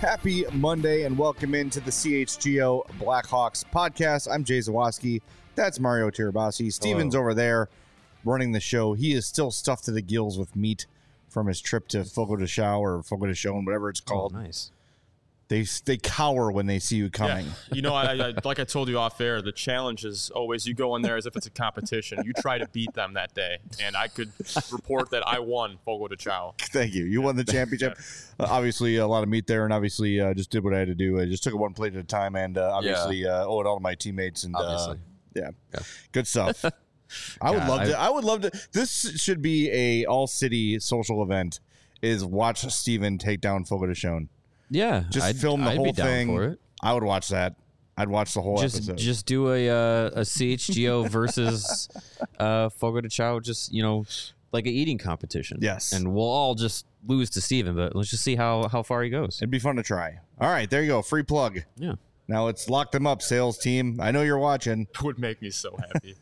Happy Monday and welcome into the CHGO Blackhawks podcast. I'm Jay Zawaski. That's Mario Tirabassi. Steven's over there running the show. He is still stuffed to the gills with meat from his trip to Fogo de Chão or Fogo de Chão, whatever it's called. Oh, nice. They cower when they see you coming. Yeah. You know, I like I told you off air, the challenge is always you go in there as if it's a competition. You try to beat them that day, and I could report that I won Fogo de Chão. Thank you. You won the championship. Obviously, a lot of meat there, and obviously just did what I had to do. I just took it one plate at a time, and obviously owe it all to my teammates. And yeah, good stuff. I would love to. This should be a all-city social event. Is watch Steven take down Fogo de Chão. Yeah, just film the whole thing. For it. I would watch that. I'd watch the whole episode. Just do a CHGO versus Fogo de Chão, just like an eating competition. Yes, and we'll all just lose to Steven, but let's just see how far he goes. It'd be fun to try. All right, there you go. Free plug. Yeah. Now let's lock them up, sales team. I know you're watching. It would make me so happy.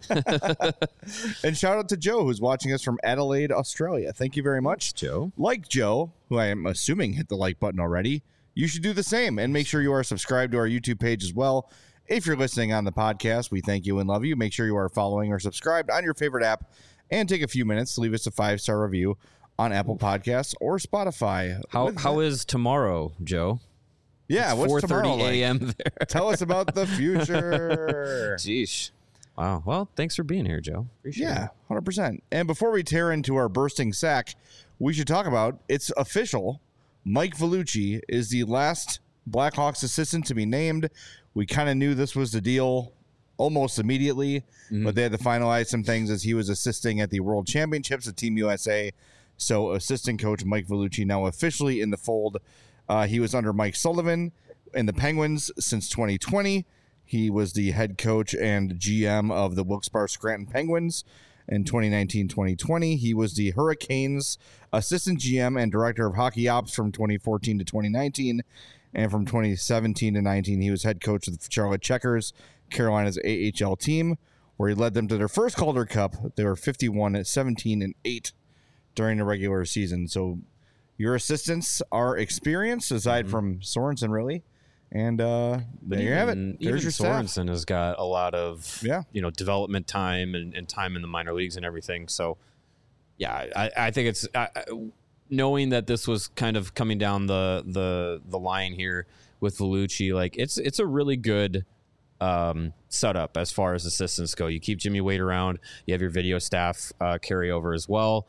And shout out to Joe, who's watching us from Adelaide, Australia. Thank you very much. Joe. Like Joe, who I am assuming hit the like button already, you should do the same. And make sure you are subscribed to our YouTube page as well. If you're listening on the podcast, we thank you and love you. Make sure you are following or subscribed on your favorite app. And take a few minutes to leave us a 5-star review on Apple Podcasts or Spotify. How is tomorrow, Joe? Yeah, it's what's tomorrow 4:30 a.m. like? there. Tell us about the future. Jeez. Wow. Well, thanks for being here, Joe. Appreciate it. Yeah, 100%. And before we tear into our bursting sack, we should talk about, it's official, Mike Vellucci is the last Blackhawks assistant to be named. We kind of knew this was the deal almost immediately, but they had to finalize some things as he was assisting at the World Championships at Team USA. So assistant coach Mike Vellucci now officially in the fold. He was under Mike Sullivan in the Penguins since 2020. He was the head coach and GM of the Wilkes-Barre Scranton Penguins in 2019-2020. He was the Hurricanes assistant GM and director of hockey ops from 2014 to 2019. And from 2017 to 19, he was head coach of the Charlotte Checkers, Carolina's AHL team, where he led them to their first Calder Cup. They were 51-17-8 during the regular season. So your assistants are experienced, aside from Sorensen, really. And there you have it. There's your Sorensen staff. has got a lot of development time and time in the minor leagues and everything. So, yeah, I think it's knowing that this was kind of coming down the line here with Vellucci. Like it's a really good setup as far as assistants go. You keep Jimmy Waite around. You have your video staff carry over as well.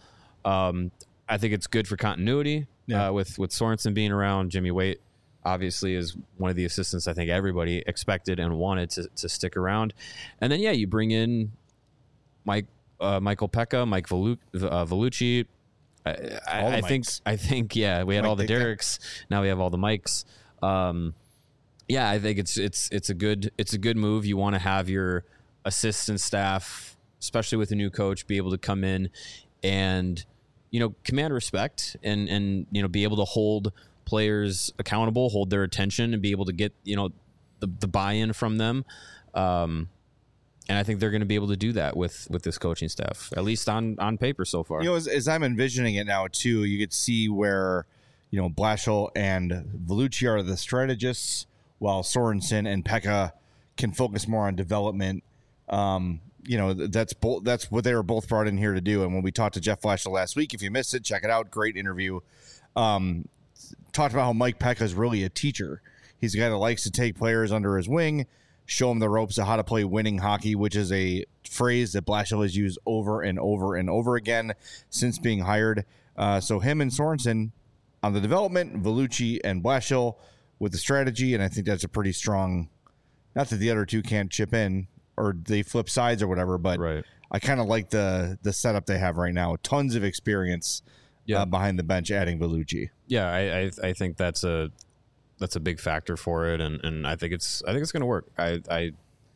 I think it's good for continuity with Sorensen being around. Jimmy Waite obviously is one of the assistants I think everybody expected and wanted to stick around. And then, you bring in Michael Pekka, Mike Vellucci. I think, we had Mike all the Ditka. Derricks. Now we have all the Mikes. I think it's a good move. You want to have your assistant staff, especially with a new coach, be able to come in and command respect and be able to hold players accountable, hold their attention, and be able to get the buy-in from them. And I think they're going to be able to do that with this coaching staff, at least on paper so far. As I'm envisioning it now too, you could see where Blashill and Vellucci are the strategists, while Sorensen and Pekka can focus more on development. That's what they were both brought in here to do. And when we talked to Jeff Blashill last week, if you missed it, check it out. Great interview. Talked about how Mike Pekka is really a teacher. He's a guy that likes to take players under his wing, show them the ropes of how to play winning hockey, which is a phrase that Blashill has used over and over and over again since being hired. So him and Sorensen on the development, Vellucci and Blashill with the strategy, and I think that's a pretty strong, not that the other two can't chip in or they flip sides or whatever, but right. I kind of like the setup they have right now. Tons of experience behind the bench, adding Vellucci. Yeah, I think that's a big factor for it, and I think it's going to work. I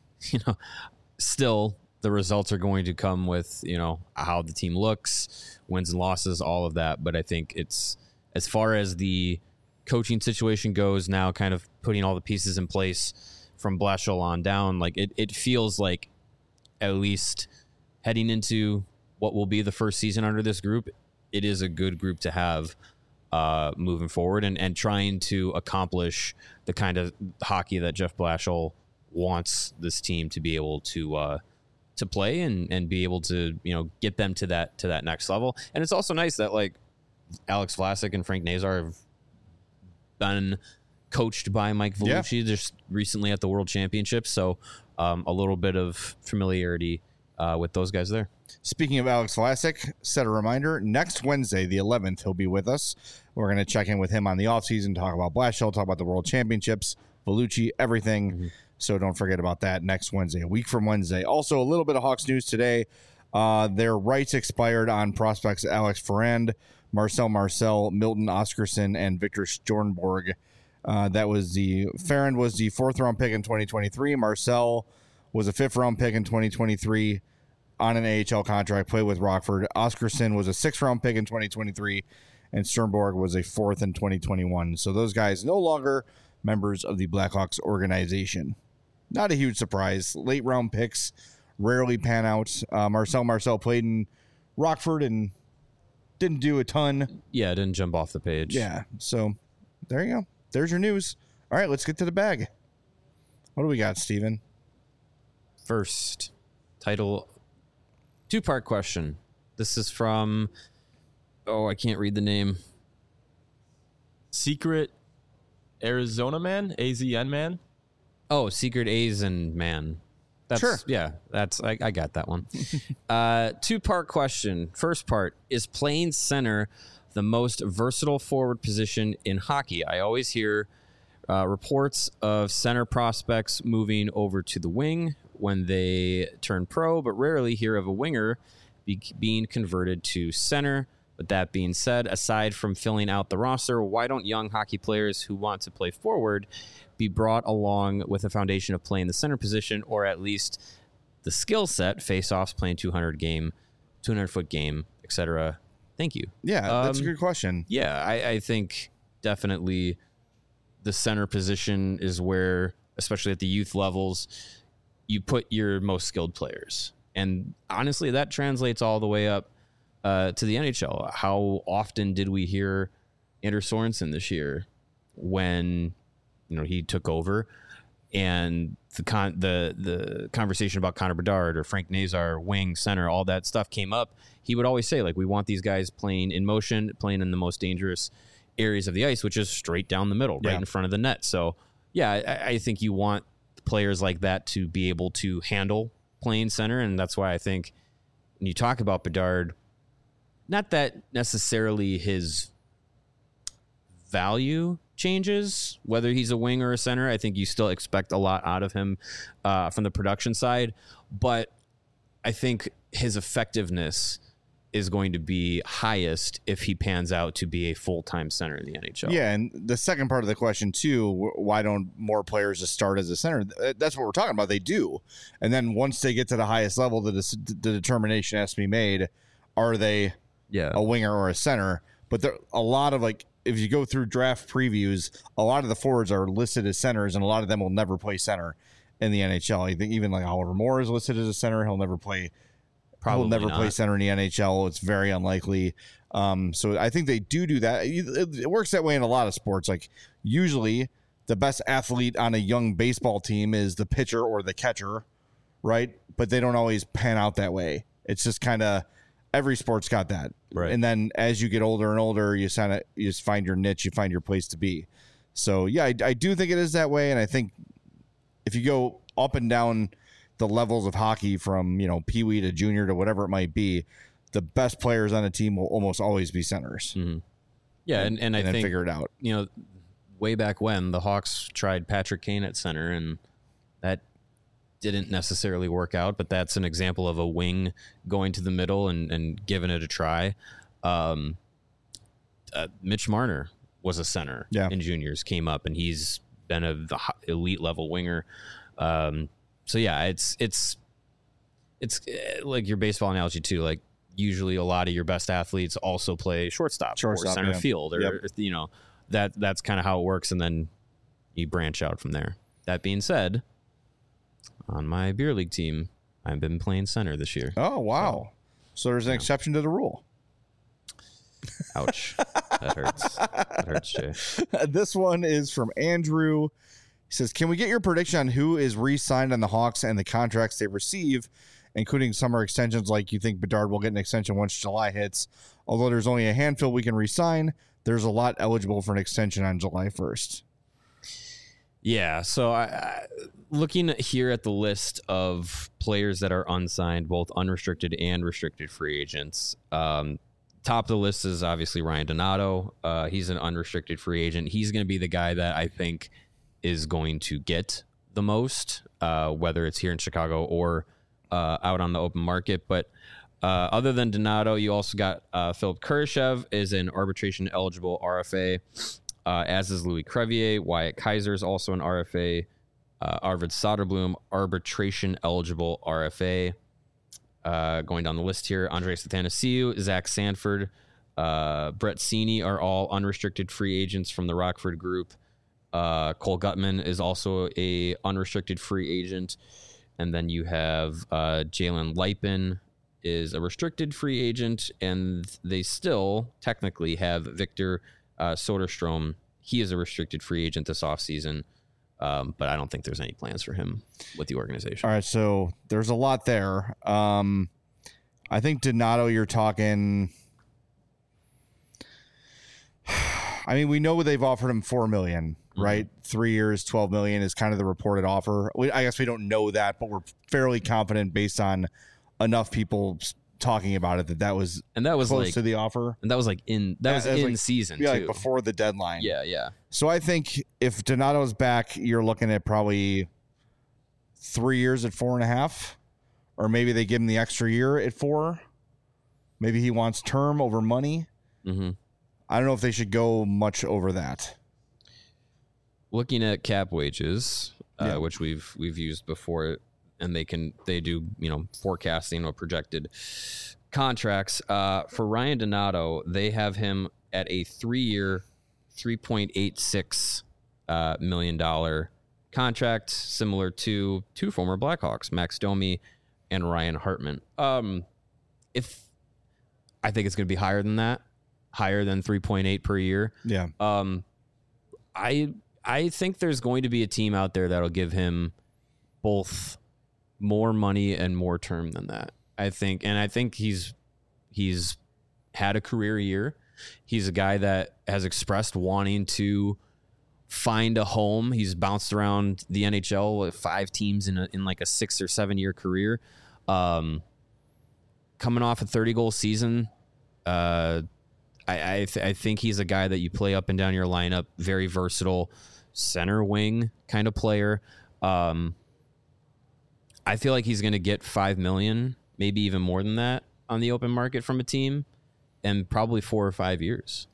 still the results are going to come with how the team looks, wins and losses, all of that. But I think it's, as far as the coaching situation goes now, kind of putting all the pieces in place from Blashill on down, like it feels like, at least heading into what will be the first season under this group, it is a good group to have. moving forward and trying to accomplish the kind of hockey that Jeff Blashill wants this team to be able to play and be able to, get them to that next level. And it's also nice that like Alex Vlasic and Frank Nazar have been coached by Mike Vellucci just recently at the World Championships. So a little bit of familiarity with those guys there. Speaking of Alex Vlasic, set a reminder, next Wednesday, the 11th, he'll be with us. We're going to check in with him on the offseason, talk about Blashill, talk about the World Championships, Vellucci, everything. Mm-hmm. So don't forget about that next Wednesday, a week from Wednesday. Also, a little bit of Hawks news today. Their rights expired on prospects Alex Ferrand, Marcel Marcel, Milton Oscarson, and Victor Stornborg. Ferrand was the 4th-round pick in 2023. Marcel was a 5th-round pick in 2023 on an AHL contract, played with Rockford. Oscarson was a 6th-round pick in 2023, and Sternborg was a 4th in 2021. So those guys no longer members of the Blackhawks organization. Not a huge surprise. Late-round picks rarely pan out. Marcel played in Rockford and didn't do a ton. Yeah, didn't jump off the page. Yeah, so there you go. There's your news. All right, let's get to the bag. What do we got, Steven? First, title, 2-part question. This is from, I can't read the name. Secret Arizona Man? AZN Man? Oh, Secret Asian Man. Sure. Yeah, I got that one. 2-part question. First part, is playing center the most versatile forward position in hockey? I always hear reports of center prospects moving over to the wing when they turn pro, but rarely hear of a winger being converted to center. With that being said, aside from filling out the roster, why don't young hockey players who want to play forward be brought along with a foundation of playing the center position, or at least the skill set, face-offs, playing 200-foot game, etc.? Thank you. Yeah, that's a good question. Yeah, I think definitely the center position is where, especially at the youth levels, you put your most skilled players. And honestly, that translates all the way up to the NHL. How often did we hear Anders Sorensen this year when he took over, and the conversation about Connor Bedard or Frank Nazar, wing, center, all that stuff came up? He would always say, like, we want these guys playing in motion, playing in the most dangerous areas of the ice, which is straight down the middle, right in front of the net. So, yeah, I think you want players like that to be able to handle playing center, and that's why I think when you talk about Bedard, not that necessarily his value changes, whether he's a wing or a center. I think you still expect a lot out of him from the production side, but I think his effectiveness is going to be highest if he pans out to be a full-time center in the NHL. Yeah, and the second part of the question, too, why don't more players just start as a center? That's what we're talking about. They do. And then once they get to the highest level, the determination has to be made. Are they a winger or a center? But there a lot of, like, if you go through draft previews, a lot of the forwards are listed as centers, and a lot of them will never play center in the NHL. I think even like Oliver Moore is listed as a center. He'll never play play center in the NHL. It's very unlikely. So I think they do that. It works that way in a lot of sports. Like, usually the best athlete on a young baseball team is the pitcher or the catcher, right? But they don't always pan out that way. It's just kind of every sport's got that. Right. And then as you get older and older, you just find your niche, you find your place to be. So yeah, I do think it is that way. And I think if you go up and down the levels of hockey from, peewee to junior to whatever it might be, the best players on a team will almost always be centers. Mm-hmm. Yeah. And I think, figure it out. Way back when the Hawks tried Patrick Kane at center, and that didn't necessarily work out, but that's an example of a wing going to the middle and giving it a try. Mitch Marner was a center in juniors, came up, and he's been an elite level winger. So yeah, it's like your baseball analogy too. Like, usually a lot of your best athletes also play shortstop or center field, or that's kind of how it works, and then you branch out from there. That being said, on my beer league team, I've been playing center this year. Oh wow! So there's an exception to the rule. Ouch. That hurts. That hurts, Jay. This one is from Andrew. He says, can we get your prediction on who is re-signed on the Hawks and the contracts they receive, including summer extensions? Like, you think Bedard will get an extension once July hits? Although there's only a handful we can re-sign, there's a lot eligible for an extension on July 1st. Yeah, so I looking here at the list of players that are unsigned, both unrestricted and restricted free agents, top of the list is obviously Ryan Donato. He's an unrestricted free agent. He's going to be the guy that I think is going to get the most, whether it's here in Chicago or out on the open market. But other than Donato, you also got Philip Kurashev is an arbitration-eligible RFA, as is Louis Crevier. Wyatt Kaiser is also an RFA. Arvid Soderblom, arbitration-eligible RFA. Going down the list here, Andres Athanasiou, Zach Sanford, Brett Seney are all unrestricted free agents from the Rockford Group. Cole Gutman is also a unrestricted free agent. And then you have Jalen Lipin is a restricted free agent, and they still technically have Victor Soderstrom. He is a restricted free agent this offseason, but I don't think there's any plans for him with the organization. All right, so there's a lot there. I think Donato, you're talking... I mean, we know they've offered him $4 million, right? 3 years, $12 million is kind of the reported offer. I guess we don't know that, but we're fairly confident based on enough people talking about it that was close like, to the offer. And that was in season, yeah, too. Like before the deadline. Yeah. So I think if Donato's back, you're looking at probably 3 years at 4.5, or maybe they give him the extra year at 4. Maybe he wants term over money. Mm-hmm. I don't know if they should go much over that. Looking at cap wages, which we've used before, and they do forecasting or projected contracts. For Ryan Donato, they have him at a 3-year, $3.86 million contract, similar to two former Blackhawks, Max Domi and Ryan Hartman. If I think it's going to be higher than that. Higher than 3.8 per year. Yeah. I think there's going to be a team out there that'll give him both more money and more term than that. I think he's had a career year. He's a guy that has expressed wanting to find a home. He's bounced around the NHL with 5 teams in like a 6 or 7 year career. Coming off a 30-goal season, I think he's a guy that you play up and down your lineup, very versatile center wing kind of player. I feel like he's going to get $5 million, maybe even more than that on the open market from a team, and probably 4 or 5 years.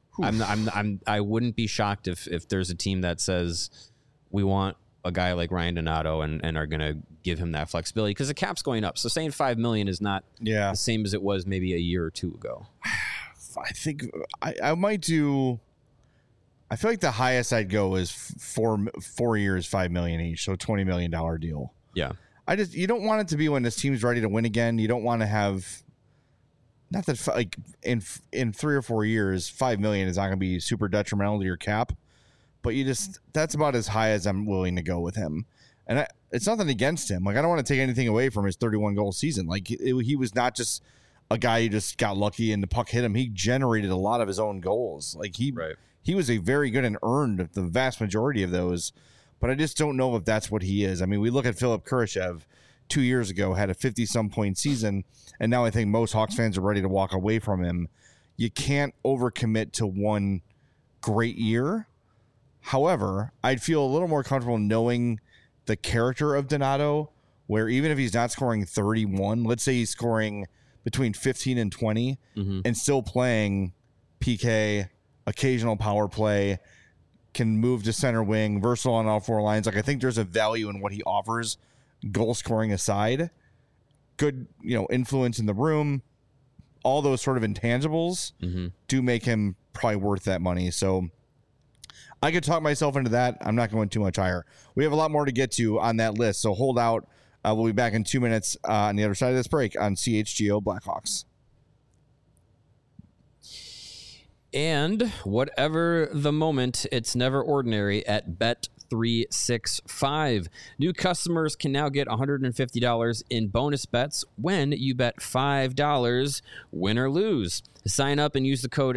I wouldn't be shocked if there's a team that says we want a guy like Ryan Donato and are going to give him that flexibility, because the cap's going up. So saying $5 million is not the same as it was maybe a year or 2 ago. I think I might do. I feel like the highest I'd go is 4 years, $5 million each, so $20 million deal. Yeah, you don't want it to be when this team's ready to win again. You don't want to have, not that like in 3 or 4 years, $5 million is not going to be super detrimental to your cap, but that's about as high as I'm willing to go with him. And it's nothing against him. Like, I don't want to take anything away from his 31 goal season. Like, he was not just a guy who just got lucky and the puck hit him. He generated a lot of his own goals. Like, he was a very good and earned the vast majority of those, but I just don't know if that's what he is. I mean, we look at Philip Kurashev 2 years ago, had a 50-some point season, and now I think most Hawks fans are ready to walk away from him. You can't overcommit to one great year. However, I'd feel a little more comfortable knowing the character of Donato, where even if he's not scoring 31, let's say he's scoring between 15 and 20 and still playing PK, occasional power play, can move to center wing, versatile on all 4 lines. Like, I think there's a value in what he offers, goal scoring aside. Good, influence in the room. All those sort of intangibles do make him probably worth that money. So I could talk myself into that. I'm not going too much higher. We have a lot more to get to on that list, so hold out. We'll be back in 2 minutes on the other side of this break on CHGO Blackhawks. And whatever the moment, it's never ordinary at Bet365. New customers can now get $150 in bonus bets when you bet $5, win or lose. Sign up and use the code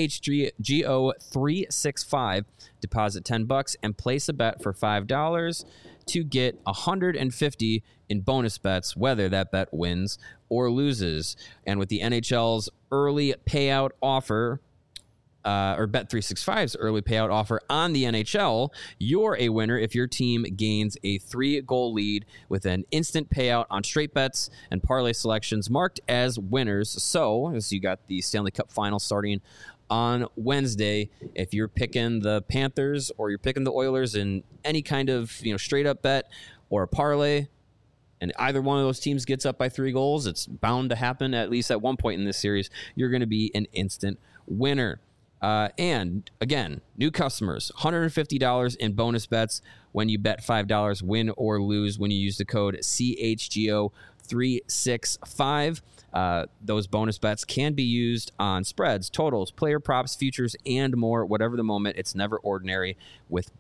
CHGO365. Deposit $10 and place a bet for $5 to get $150 in bonus bets, whether that bet wins or loses. And with the NHL's early payout offer, or Bet365's early payout offer on the NHL, you're a winner if your team gains a 3-goal lead with an instant payout on straight bets and parlay selections marked as winners. So, as you got the Stanley Cup final starting on Wednesday, if you're picking the Panthers or you're picking the Oilers in any kind of straight up bet or a parlay, and either one of those teams gets up by 3 goals, it's bound to happen at least at one point in this series. You're going to be an instant winner. And again, new customers, $150 in bonus bets when you bet $5, win or lose when you use the code CHGO365. Those bonus bets can be used on spreads, totals, player props, futures, and more. Whatever the moment, it's never ordinary with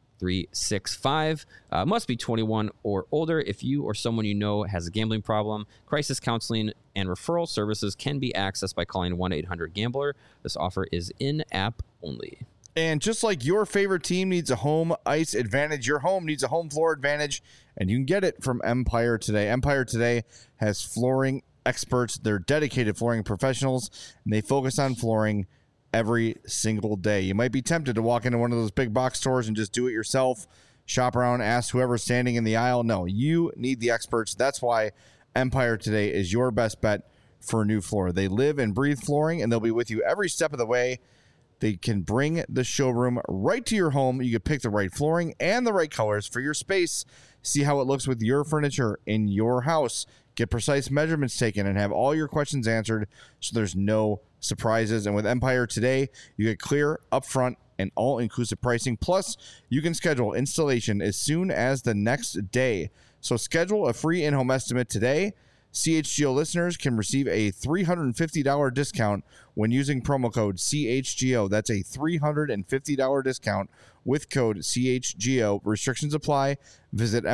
Bet365. Must be 21 or older. If you or someone you know has a gambling problem, crisis counseling and referral services can be accessed by calling 1-800-GAMBLER. This offer is in-app only. And just like your favorite team needs a home ice advantage, your home needs a home floor advantage, and you can get it from Empire Today. Empire Today has flooring experts. They're dedicated flooring professionals, and they focus on flooring every single day. You might be tempted to walk into one of those big box stores and just do it yourself, shop around, ask whoever's standing in the aisle. No, you need the experts. That's why Empire Today is your best bet for a new floor. They live and breathe flooring, and they'll be with you every step of the way. They can bring the showroom right to your home. You can pick the right flooring and the right colors for your space. See how it looks with your furniture in your house. Get precise measurements taken and have all your questions answered so there's no surprises. And with Empire Today, you get clear, upfront, and all-inclusive pricing. Plus, you can schedule installation as soon as the next day. So schedule a free in-home estimate today. CHGO listeners can receive a $350 discount when using promo code CHGO. That's a $350 discount with code CHGO. Restrictions apply. Visit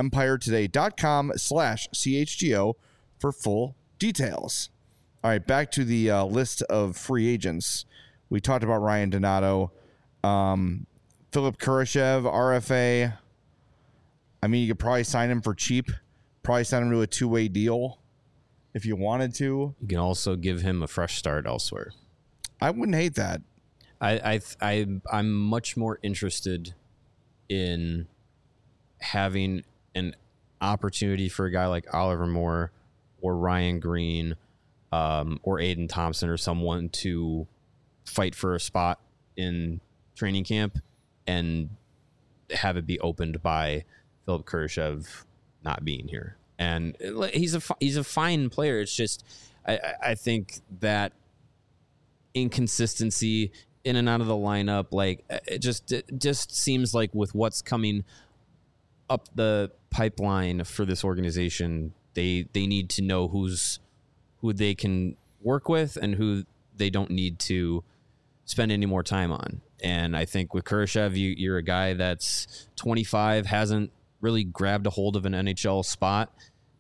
empiretoday.com/CHGO for full details. All right, back to the list of free agents. We talked about Ryan Donato, Philip Kurashev, RFA. I mean, you could probably sign him for cheap. Probably sign him to a 2-way deal if you wanted to. You can also give him a fresh start elsewhere. I wouldn't hate that. I'm much more interested in having an opportunity for a guy like Oliver Moore or Ryan Green or Aiden Thompson or someone to fight for a spot in training camp and have it be opened by Philip Kurashev not being here. And he's a fine player. It's just I think that inconsistency in and out of the lineup, like it just seems like with what's coming up the pipeline for this organization, they need to know who they can work with and who they don't need to spend any more time on. And I think with Kurashev, you're a guy that's 25, hasn't really grabbed a hold of an NHL spot.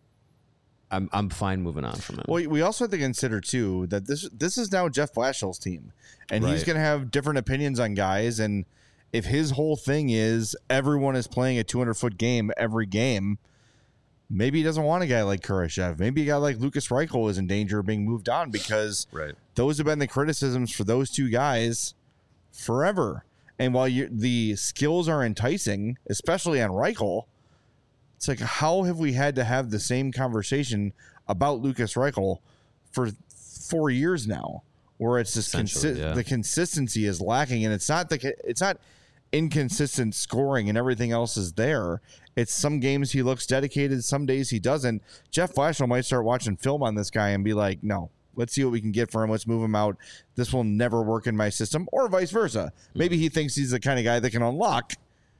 I'm fine moving on from him. Well, we also have to consider too that this is now Jeff Blashill's team, and he's going to have different opinions on guys. And if his whole thing is everyone is playing a 200-foot game every game, maybe he doesn't want a guy like Kurashev. Maybe a guy like Lucas Reichel is in danger of being moved on because those have been the criticisms for those two guys forever. And while the skills are enticing, especially on Reichel, it's like, how have we had to have the same conversation about Lucas Reichel for 4 years now, where it's just the consistency is lacking, and it's not inconsistent scoring and everything else is there. It's some games he looks dedicated, some days he doesn't. Jeff Blashill might start watching film on this guy and be like, no, let's see what we can get for him. Let's move him out. This will never work in my system, or vice versa. Maybe he thinks he's the kind of guy that can unlock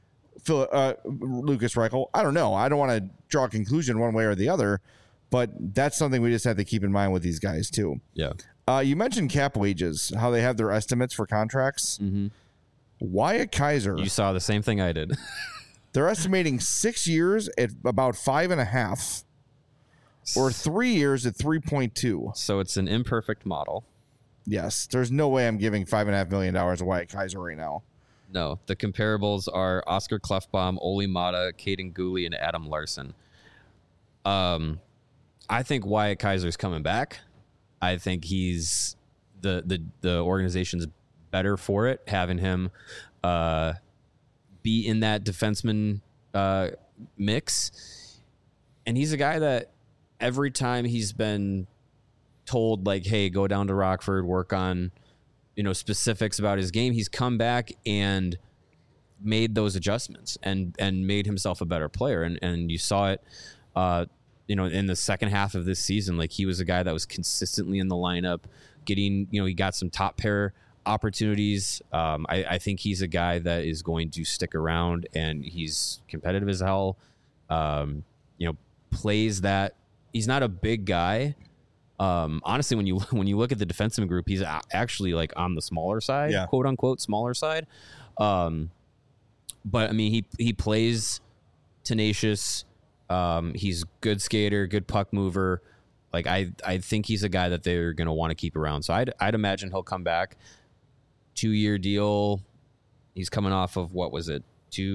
Lucas Reichel. I don't know. I don't want to draw a conclusion one way or the other, but that's something we just have to keep in mind with these guys too. Yeah. You mentioned cap wages, how they have their estimates for contracts. Mm-hmm. Wyatt Kaiser. You saw the same thing I did. They're estimating 6 years at about 5.5, or 3 years at 3.2. So it's an imperfect model. Yes, there's no way I'm giving $5.5 million to Wyatt Kaiser right now. No, the comparables are Oscar Klefbom, Oli Mata, Caden Gooley, and Adam Larson. I think Wyatt Kaiser's coming back. I think he's the organization's better for it, having him be in that defenseman mix. And he's a guy that every time he's been told, like, hey, go down to Rockford, work on, specifics about his game, he's come back and made those adjustments and made himself a better player. And you saw it, in the second half of this season. Like, he was a guy that was consistently in the lineup, getting, he got some top pair opportunities. I think he's a guy that is going to stick around, and he's competitive as hell. Plays that. He's not a big guy. Honestly, when you look at the defenseman group, he's actually like on the smaller side, quote unquote smaller side. But I mean, he plays tenacious. He's good skater, good puck mover. Like, I think he's a guy that they're going to want to keep around. So I'd imagine he'll come back. 2-year deal. He's coming off of, what was it?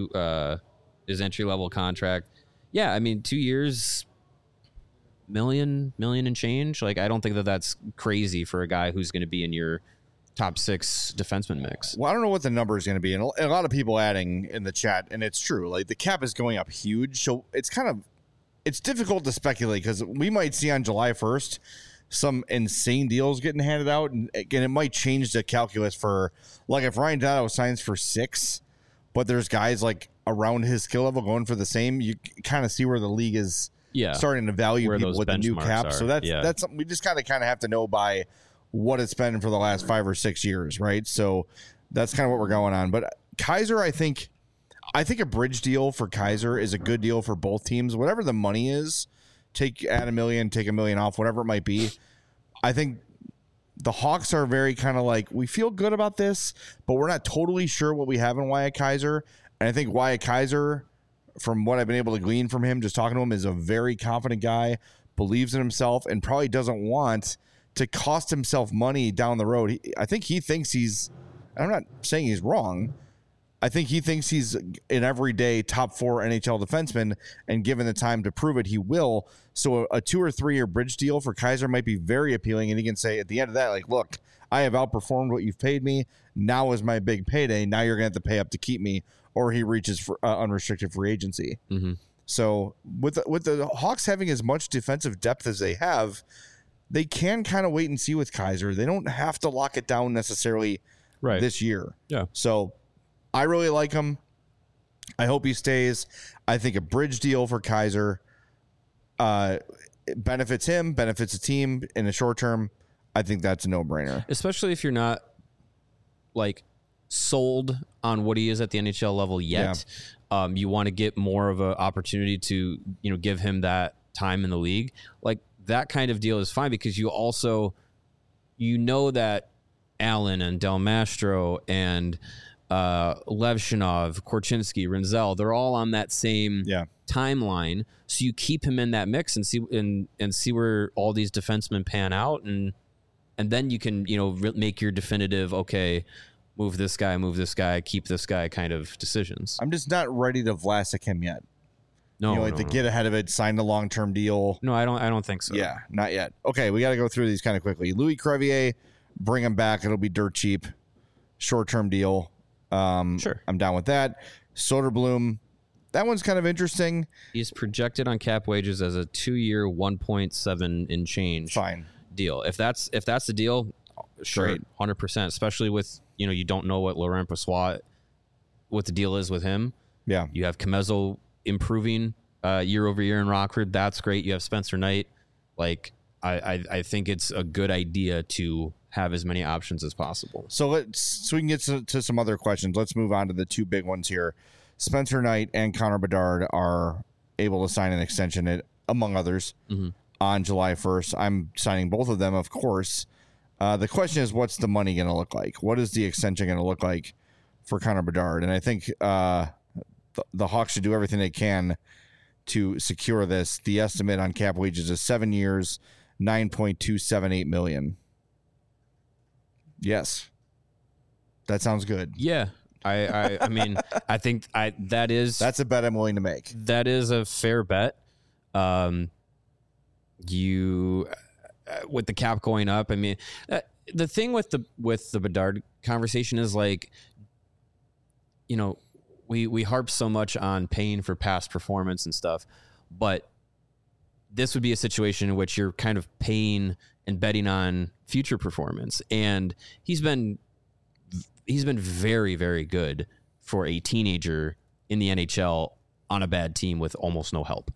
His entry level contract. Yeah. I mean, 2 years, million and change. Like, I don't think that's crazy for a guy who's going to be in your top 6 defenseman mix. Well, I don't know what the number is going to be. And a lot of people adding in the chat, and it's true. Like, the cap is going up huge. So it's difficult to speculate, because we might see on July 1st some insane deals getting handed out. And again, it might change the calculus for, like, if Ryan Donato signs for 6, but there's guys like around his skill level going for the same, you kind of see where the league is starting to value where people with the new cap. So that's something we just kind of have to know by what it's been for the last 5 or 6 years, right? So that's kind of what we're going on. But Kaiser, I think a bridge deal for Kaiser is a good deal for both teams. Whatever the money is, add $1 million, take $1 million off, whatever it might be. I think the Hawks are very kind of like, we feel good about this, but we're not totally sure what we have in Wyatt Kaiser. And I think Wyatt Kaiser, from what I've been able to glean from him, just talking to him, is a very confident guy, believes in himself, and probably doesn't want to cost himself money down the road. I think he thinks I'm not saying he's wrong. I think he thinks he's an everyday top 4 NHL defenseman, and given the time to prove it, he will. So a 2 or 3 year bridge deal for Kaiser might be very appealing, and he can say at the end of that, like, look, I have outperformed what you've paid me. Now is my big payday. Now you're going to have to pay up to keep me, or he reaches for unrestricted free agency. Mm-hmm. So with the Hawks having as much defensive depth as they have, they can kind of wait and see with Kaiser. They don't have to lock it down necessarily this year. Yeah. So I really like him. I hope he stays. I think a bridge deal for Kaiser benefits him, benefits the team in the short term. I think that's a no-brainer. Especially if you're not, like, sold on what he is at the NHL level yet. Yeah. You want to get more of an opportunity to, give him that time in the league. Like, that kind of deal is fine, because you also, that Allen and Del Mastro and Levshinov, Korchinski, Renzel, they're all on that same timeline. So you keep him in that mix and see where all these defensemen pan out, and then you can make your definitive, okay, move this guy, keep this guy kind of decisions. I'm just not ready to Vlasic him yet. No, to get ahead of it, sign the long-term deal. No, I don't think so. Yeah, not yet. Okay, we got to go through these kind of quickly. Louis Crevier, bring him back. It'll be dirt cheap, short-term deal. Sure, I'm down with that. Soderblom, that one's kind of interesting. He's projected on cap wages as a 2-year, 1.7 in change. Fine deal. If that's the deal, sure, 100%. Especially with you don't know what Laurent Brossoit, what the deal is with him. Yeah, you have Comezzo improving year over year in Rockford. That's great. You have Spencer Knight. Like, I think it's a good idea to have as many options as possible. So we can get to some other questions. Let's move on to the 2 big ones here. Spencer Knight and Connor Bedard are able to sign an extension, among others, on July 1st. I'm signing both of them, of course. The question is, what's the money going to look like? What is the extension going to look like for Connor Bedard? And I think the Hawks should do everything they can to secure this. The estimate on cap wages is 7 years, $9.278 million. Yes, that sounds good. Yeah, I mean, I think that's a bet I'm willing to make. That is a fair bet. You with the cap going up. I mean, the thing with the Bedard conversation is like, you know, we harp so much on paying for past performance and stuff, but this would be a situation in which you're kind of paying and betting on future performance. And he's been very, very good for a teenager in the NHL on a bad team with almost no help.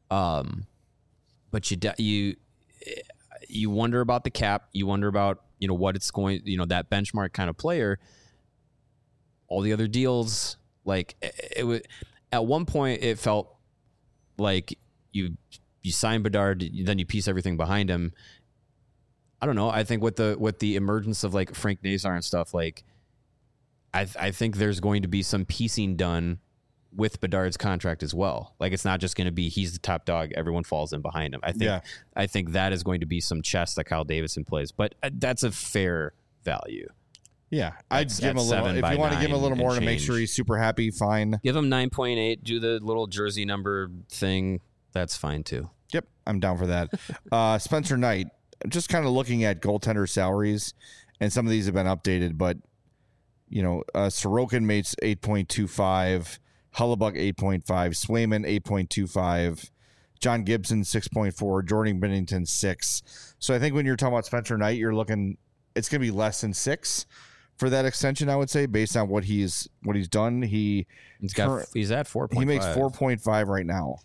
But you wonder about the cap. You wonder about, you know, what it's going, you know, that benchmark kind of player. All the other deals, like it was at one point, it felt like you sign Bedard, then you piece everything behind him. I don't know. I think with the emergence of like Frank Nazar and stuff, like I think there's going to be some piecing done with Bedard's contract as well. Like it's not just going to be he's the top dog, everyone falls in behind him. I think that is going to be some chess that Kyle Davidson plays, but that's a fair value. Yeah, I'd give him a little. If you want to give him a little more to make sure he's super happy, fine. Give him 9.8. Do the little jersey number thing. That's fine too. Yep, I'm down for that. Spencer Knight. Just kind of looking at goaltender salaries, and some of these have been updated, but you know, Sorokin made 8.25, Hellebuyck 8.5, Swayman 8.25, John Gibson 6.4, Jordan Binnington 6. So I think when you're talking about Spencer Knight, you're looking, it's going to be less than 6 for that extension, I would say, based on what he's done. He's at 4.5. He makes 4.5 right now.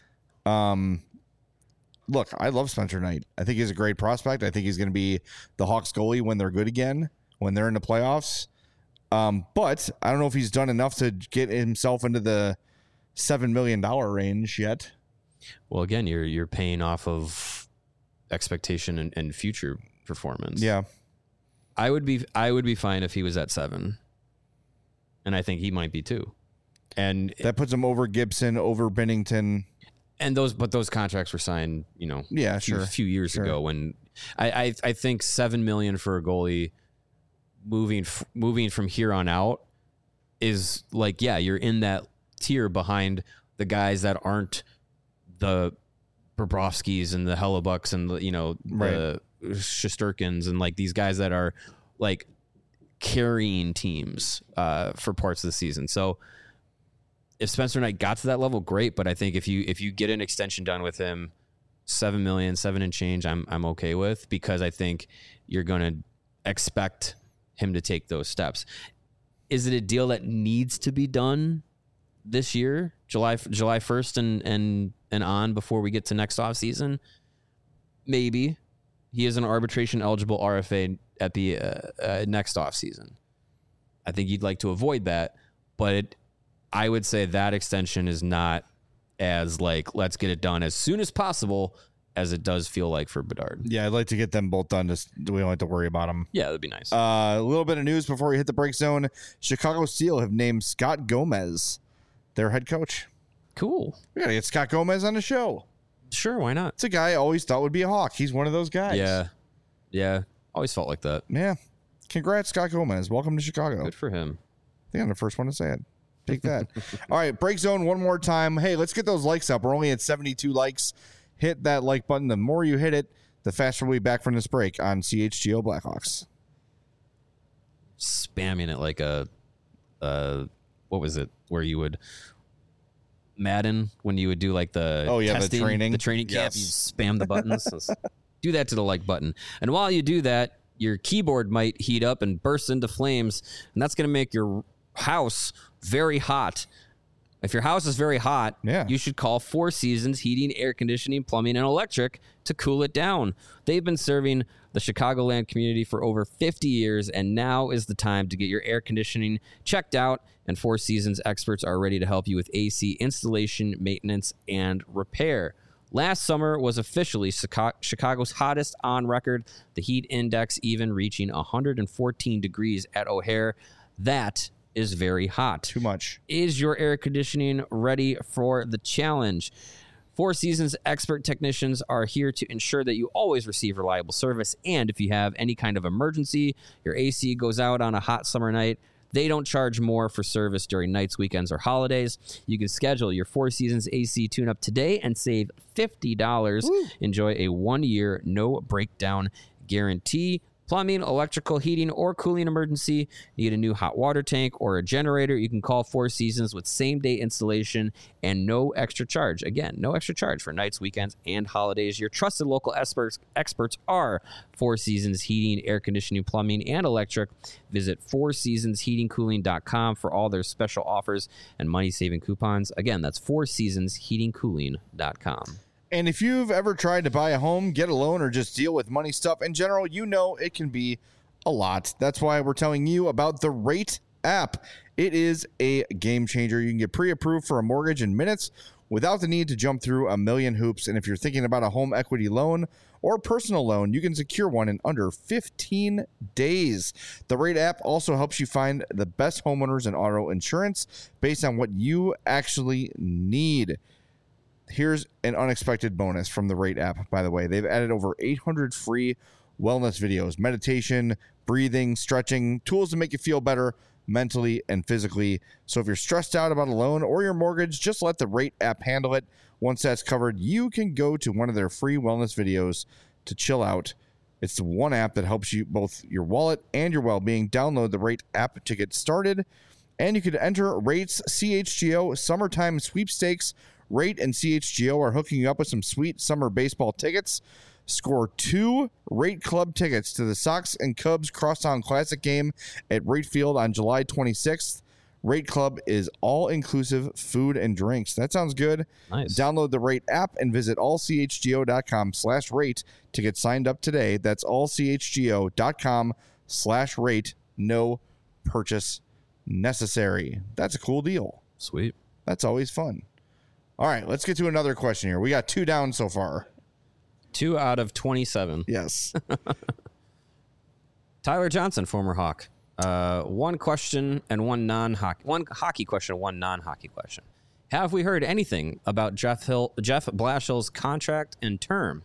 Look, I love Spencer Knight. I think he's a great prospect. I think he's going to be the Hawks goalie when they're good again, when they're in the playoffs. But I don't know if he's done enough to get himself into the $7 million range yet. Well, again, you're paying off of expectation and future performance. Yeah. I would be fine if he was at 7. And I think he might be too. And that puts him over Gibson, over Binnington. And those contracts were signed, you know, a few years ago. When I think $7 million for a goalie moving from here on out is like, yeah, you're in that tier behind the guys that aren't the Bobrovskys and the Hellebucks and the, you know, the Shesterkins and like these guys that are like carrying teams for parts of the season. So if Spencer Knight got to that level, great. But I think if you get an extension done with him, $7 million, 7 and change, I'm okay with, because I think you're going to expect him to take those steps. Is it a deal that needs to be done this year, July 1st and on, before we get to next offseason? Maybe. He is an arbitration eligible RFA at the next offseason. I think you'd like to avoid that, but I would say that extension is not as like, let's get it done as soon as possible as it does feel like for Bedard. Yeah, I'd like to get them both done. Just we don't have to worry about them. Yeah, that'd be nice. A little bit of news before we hit the break zone. Chicago Steel have named Scott Gomez their head coach. Cool. We got to get Scott Gomez on the show. Sure, why not? It's a guy I always thought would be a Hawk. He's one of those guys. Yeah. Always felt like that. Yeah. Congrats, Scott Gomez. Welcome to Chicago. Good for him. I think I'm the first one to say it. Take that. All right, break zone one more time. Hey, let's get those likes up. We're only at 72 likes. Hit that like button. The more you hit it, the faster we'll be back from this break on CHGO Blackhawks. Spamming it like a, what was it? Where you would, Madden, when you would do like the testing, the training camp, you spam the buttons. Do that to the like button. And while you do that, your keyboard might heat up and burst into flames, and that's going to make your house very hot. If your house is very hot, you should call Four Seasons Heating, Air Conditioning, Plumbing, and Electric to cool it down. They've been serving the Chicagoland community for over 50 years, and now is the time to get your air conditioning checked out, and Four Seasons experts are ready to help you with AC installation, maintenance, and repair. Last summer was officially Chicago's hottest on record, the heat index even reaching 114 degrees at O'Hare. That is very hot. Too much. Is your air conditioning ready for the challenge? Four Seasons expert technicians are here to ensure that you always receive reliable service. And if you have any kind of emergency, your AC goes out on a hot summer night, they don't charge more for service during nights, weekends, or holidays. You can schedule your Four Seasons AC tune-up today and save $50. Woo. Enjoy a 1-year, no breakdown guarantee. Plumbing, electrical, heating, or cooling emergency, need a new hot water tank or a generator, you can call Four Seasons with same-day installation and no extra charge. Again, no extra charge for nights, weekends, and holidays. Your trusted local experts are Four Seasons Heating, Air Conditioning, Plumbing, and Electric. Visit fourseasonsheatingcooling.com for all their special offers and money-saving coupons. Again, that's fourseasonsheatingcooling.com. And if you've ever tried to buy a home, get a loan, or just deal with money stuff in general, you know it can be a lot. That's why we're telling you about the Rate app. It is a game changer. You can get pre-approved for a mortgage in minutes without the need to jump through a million hoops. And if you're thinking about a home equity loan or personal loan, you can secure one in under 15 days. The Rate app also helps you find the best homeowners and auto insurance based on what you actually need. Here's an unexpected bonus from the Rate app, by the way. They've added over 800 free wellness videos, meditation, breathing, stretching, tools to make you feel better mentally and physically. So if you're stressed out about a loan or your mortgage, just let the Rate app handle it. Once that's covered, you can go to one of their free wellness videos to chill out. It's the one app that helps you both your wallet and your well-being. Download the Rate app to get started. And you can enter Rate's CHGO Summertime Sweepstakes. Rate and CHGO are hooking you up with some sweet summer baseball tickets. Score 2 Rate Club tickets to the Sox and Cubs Crosstown Classic game at Rate Field on July 26th. Rate Club is all-inclusive food and drinks. That sounds good. Nice. Download the Rate app and visit allchgo.com/rate to get signed up today. That's allchgo.com/rate. No purchase necessary. That's a cool deal. Sweet. That's always fun. All right, let's get to another question here. We got 2 down so far. 2 out of 27. Yes. Tyler Johnson, former Hawk. One question and one non-hockey. One hockey question, one non-hockey question. Have we heard anything about Jeff Blashill's contract and term?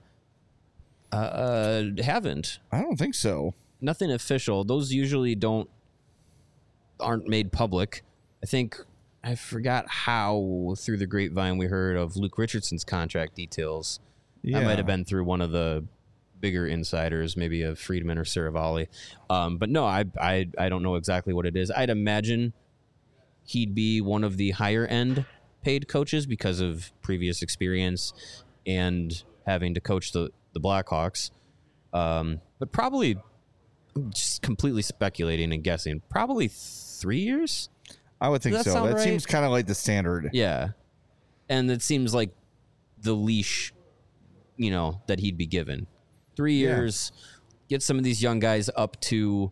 Haven't. I don't think so. Nothing official. Those usually aren't made public. I think I forgot how through the grapevine we heard of Luke Richardson's contract details. Yeah. That might have been through one of the bigger insiders, maybe a Friedman or Saravalli. But no, I don't know exactly what it is. I'd imagine he'd be one of the higher end paid coaches because of previous experience and having to coach the Blackhawks. But probably, I'm just completely speculating and guessing, probably 3 years? I would think so. That seems kind of like the standard. Yeah. And it seems like the leash, that he'd be given. 3 years, get some of these young guys up to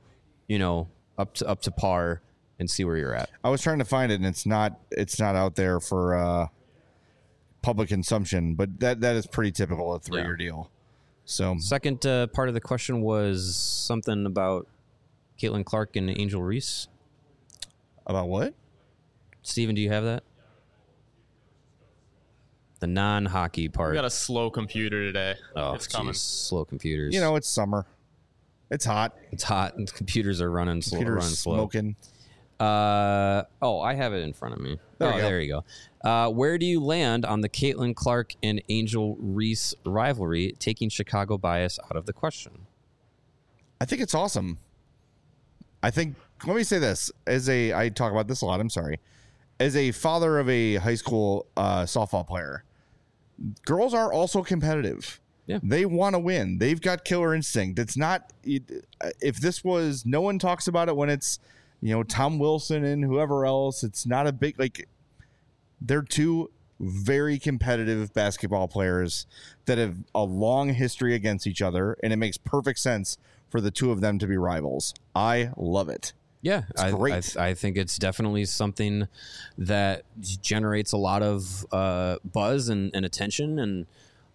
par and see where you're at. I was trying to find it and it's not out there for public consumption, but that is pretty typical, a 3-year deal. So second part of the question was something about Caitlin Clark and Angel Reese. About what? Steven, do you have that? The non-hockey part. We got a slow computer today. Oh, it's coming. Slow computers. It's summer. It's hot. It's hot, and computers are running slow. Smoking. I have it in front of me. There you go. Where do you land on the Caitlin Clark and Angel Reese rivalry, taking Chicago bias out of the question? I think it's awesome. Let me say this. I talk about this a lot, I'm sorry. As a father of a high school softball player, girls are also competitive. Yeah. They want to win. They've got killer instinct. It's not, if this was, no one talks about it when it's, Tom Wilson and whoever else. It's not a big, they're two very competitive basketball players that have a long history against each other, and it makes perfect sense for the two of them to be rivals. I love it. Yeah, it's great. I think it's definitely something that generates a lot of buzz and attention, and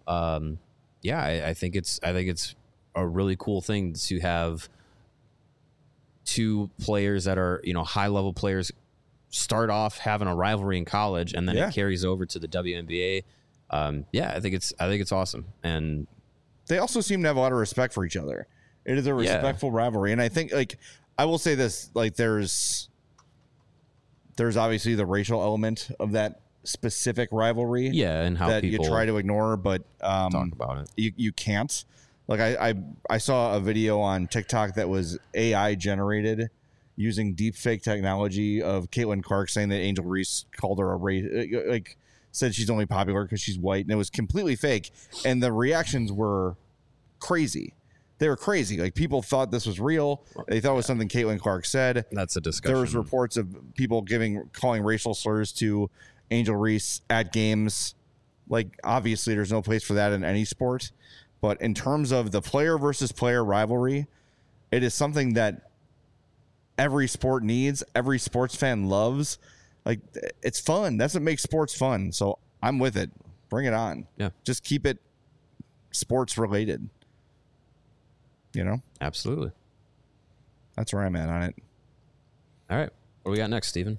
Yeah, I think it's a really cool thing to have two players that are, high level players start off having a rivalry in college, and then it carries over to the WNBA. I think it's awesome. And they also seem to have a lot of respect for each other. It is a respectful rivalry. And I think, like, I will say this, like, there's obviously the racial element of that specific rivalry. Yeah, and how that people you try to ignore, but talk about it. You can't. Like, I saw a video on TikTok that was AI generated using deep fake technology of Caitlin Clark saying that Angel Reese called her a race, like, said she's only popular because she's white, and it was completely fake. And the reactions were crazy. They were crazy. Like, people thought this was real. They thought it was something Caitlin Clark said. That's a discussion. There was reports of people calling racial slurs to Angel Reese at games. Like, obviously, there's no place for that in any sport. But in terms of the player versus player rivalry, it is something that every sport needs. Every sports fan loves. Like, it's fun. That's what makes sports fun. So I'm with it. Bring it on. Yeah. Just keep it sports related. Absolutely. That's where I'm at on it. All right. What do we got next, Steven?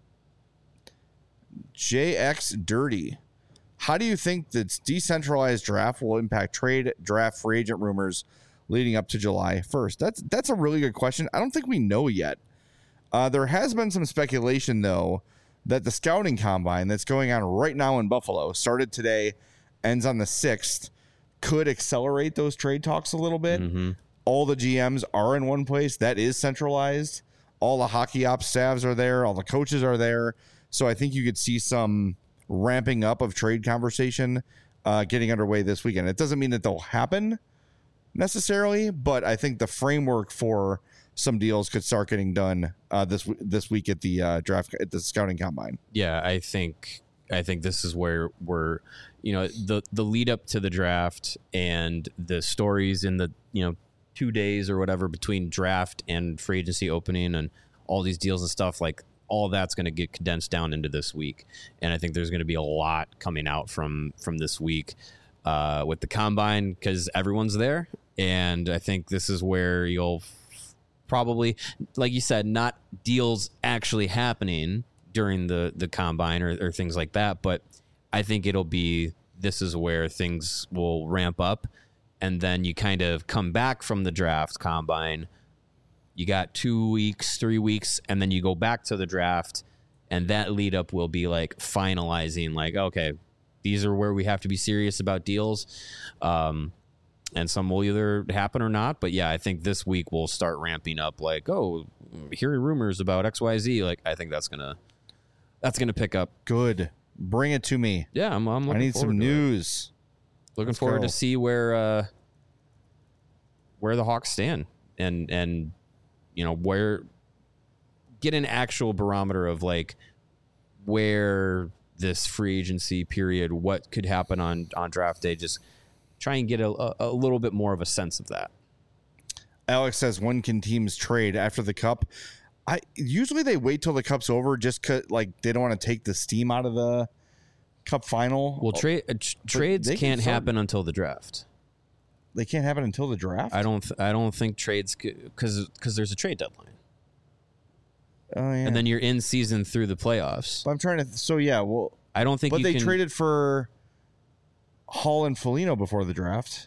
JX Dirty. How do you think that decentralized draft will impact trade, draft, free agent rumors leading up to July 1st? That's a really good question. I don't think we know yet. There has been some speculation, though, that the scouting combine that's going on right now in Buffalo, started today, ends on the 6th, could accelerate those trade talks a little bit. Mm-hmm. All the GMs are in one place. That is centralized. All the hockey ops staffs are there. All the coaches are there. So I think you could see some ramping up of trade conversation getting underway this weekend. It doesn't mean that they'll happen necessarily, but I think the framework for some deals could start getting done this week at the draft, at the scouting combine. Yeah, I think this is where we're, the lead up to the draft and the stories in the 2 days or whatever between draft and free agency opening and all these deals and stuff, like, all that's going to get condensed down into this week. And I think there's going to be a lot coming out from this week with the combine, because everyone's there. And I think this is where you'll probably, like you said, not deals actually happening during the combine or things like that. But I think this is where things will ramp up. And then you kind of come back from the draft combine. You got 2 weeks, 3 weeks, and then you go back to the draft, and that lead up will be like finalizing, like, okay, these are where we have to be serious about deals. And some will either happen or not. But yeah, I think this week we'll start ramping up, like, oh, hearing rumors about XYZ. Like, I think that's gonna pick up. Good. Bring it to me. Yeah, I'm looking I need some news. Looking forward to see where the Hawks stand and where, get an actual barometer of, like, where this free agency period, what could happen on draft day. Just try and get a little bit more of a sense of that. Alex says, when can teams trade after the cup? Usually they wait till the cup's over, just like they don't want to take the steam out of the cup final. Well, trades can't happen until the draft. They can't happen until the draft? I don't think trades, because there's a trade deadline. Oh, yeah. And then you're in season through the playoffs. But I'm trying to. So yeah, well, I don't think. But they traded for Hall and Foligno before the draft,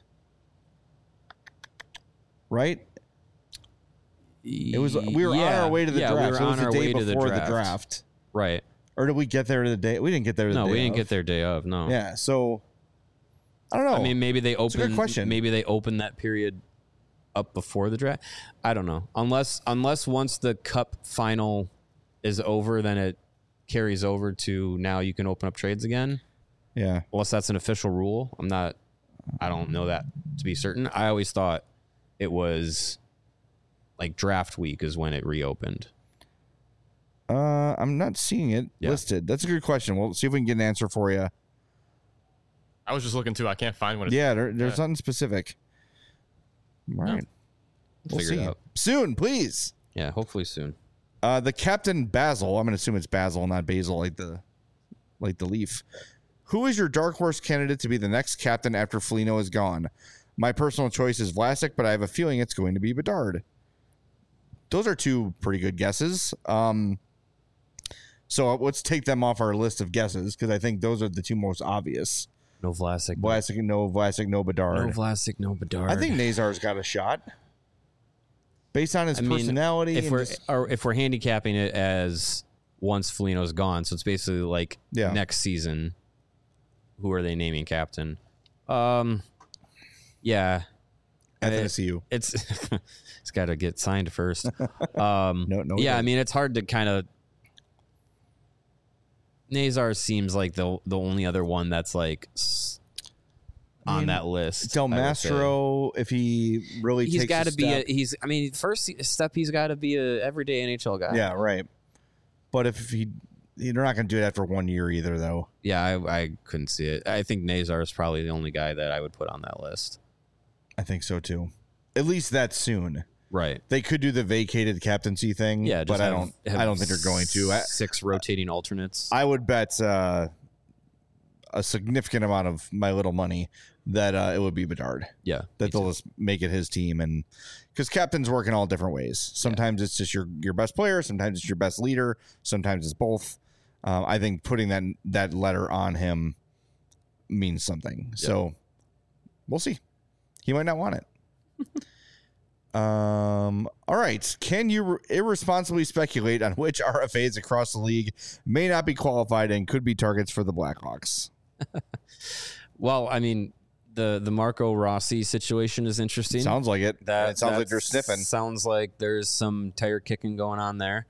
right? It was. We were on our way to the draft. We were on our way to the draft, right? Or did we get there the day? We didn't get there. No, we didn't get there day of. No. Yeah. So I don't know. I mean, maybe they opened. It's a good question. Maybe they opened that period up before the draft. I don't know. Unless once the cup final is over, then it carries over to now you can open up trades again. Yeah. Unless that's an official rule. I don't know that to be certain. I always thought it was like draft week is when it reopened. I'm not seeing it listed. That's a good question. We'll see if we can get an answer for you. I was just looking too. I can't find one. There's nothing specific. All right. We'll Figure see it out. Soon, please. Yeah, hopefully soon. The Captain Basil, I'm going to assume it's Basil, not Basil, like the leaf. Who is your dark horse candidate to be the next captain after Foligno is gone? My personal choice is Vlasic, but I have a feeling it's going to be Bedard. Those are two pretty good guesses. So let's take them off our list of guesses because I think those are the two most obvious. No Vlasic. Vlasic, no Bedard. No Vlasic, no Bedard. I think Nazar's got a shot based on his personality. If we're handicapping it as once Foligno's gone, so it's basically like next season. Who are they naming captain? Yeah, FSU. It's got to get signed first. No. Yeah, I mean it's hard to kind of. Nazar seems like the only other one that's like on that list. Del Mastro, if he really he's got to be first step he's got to be a everyday NHL guy. Yeah, right. But if they're not going to do it after 1 year either, though. Yeah, I couldn't see it. I think Nazar is probably the only guy that I would put on that list. I think so too. At least that soon. Right. They could do the vacated captaincy thing, but I don't think they're going to. 6 rotating alternates. I would bet a significant amount of my little money that it would be Bedard. Yeah. That they'll just make it his team, and because captains work in all different ways. Sometimes it's just your best player, sometimes it's your best leader, sometimes it's both. I think putting that letter on him means something. Yep. So we'll see. He might not want it. All right. Can you irresponsibly speculate on which RFAs across the league may not be qualified and could be targets for the Blackhawks? Well, I mean, the Marco Rossi situation is interesting. Sounds like it. It sounds like they're sniffing. Sounds like there's some tire kicking going on there.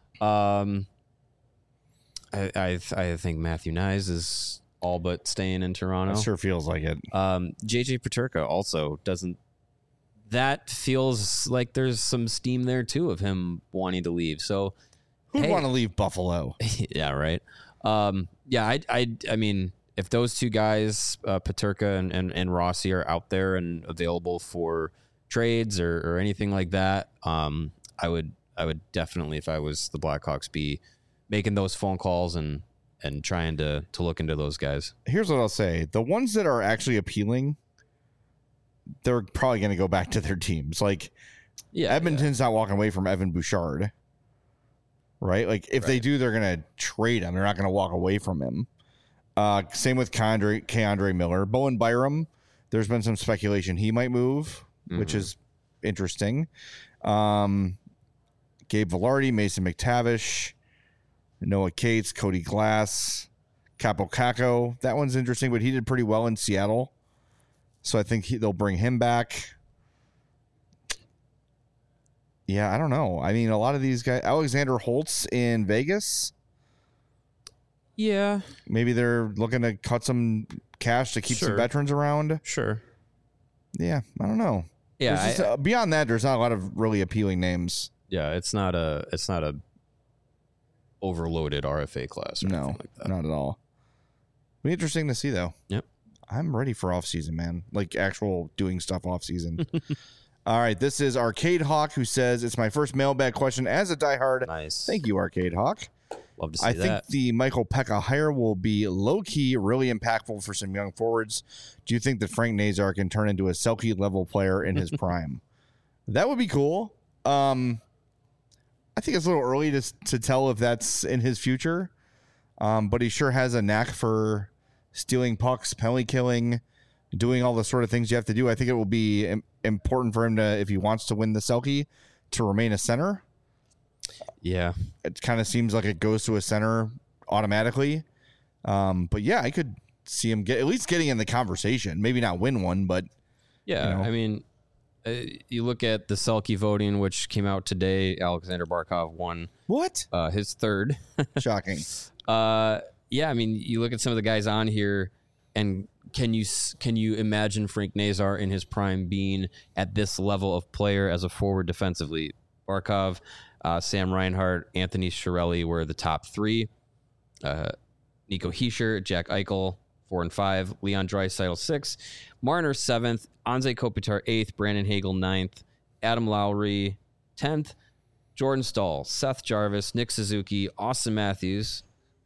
I think Matthew Nyes is all but staying in Toronto. It sure feels like it. JJ Peterka also doesn't. That feels like there's some steam there too of him wanting to leave. So who'd want to leave Buffalo? Yeah, right. Yeah, I mean, if those two guys, Peterka and Rossi, are out there and available for trades or anything like that, I would definitely, if I was the Blackhawks, be making those phone calls and trying to look into those guys. Here's what I'll say: the ones that are actually appealing, they're probably going to go back to their teams. Like, Edmonton's not walking away from Evan Bouchard, right? Like, if they do, they're going to trade him. They're not going to walk away from him. Same with K'Andre Miller. Bowen Byram, there's been some speculation he might move, which is interesting. Gabe Vilardi, Mason McTavish, Noah Cates, Cody Glass, Capo Caco. That one's interesting, but he did pretty well in Seattle. So I think they'll bring him back. Yeah, I don't know. I mean, a lot of these guys, Alexander Holtz in Vegas. Yeah. Maybe they're looking to cut some cash to keep some veterans around. Sure. Yeah, I don't know. Yeah. Beyond that, there's not a lot of really appealing names. Yeah, it's not a overloaded RFA class or anything like that. Not at all. Be interesting to see though. Yep. I'm ready for off season, man. Like actual doing stuff off season. All right, this is Arcade Hawk who says it's my first mailbag question as a diehard. Nice. Thank you, Arcade Hawk. Love to see that. I think the Michael Pekka hire will be low key, really impactful for some young forwards. Do you think that Frank Nazar can turn into a Selke level player in his prime? That would be cool. I think it's a little early to tell if that's in his future, but he sure has a knack for stealing pucks, penalty killing, doing all the sort of things you have to do. I think it will be important for him to, if he wants to win the Selke, to remain a center. Yeah. It kind of seems like it goes to a center automatically. But yeah, I could see him at least getting in the conversation. Maybe not win one, but yeah, I mean, you look at the Selke voting, which came out today. Alexander Barkov won. What? His third. Shocking. Yeah, I mean, you look at some of the guys on here, and can you imagine Frank Nazar in his prime being at this level of player as a forward defensively? Barkov, Sam Reinhart, Anthony Chiarelli were the top three. Nico Hischier, Jack Eichel, 4 and 5. Leon Draisaitl, 6. Marner, 7th. Anze Kopitar, 8th. Brandon Hagel, 9th. Adam Lowry, 10th. Jordan Stahl, Seth Jarvis, Nick Suzuki, Austin Matthews,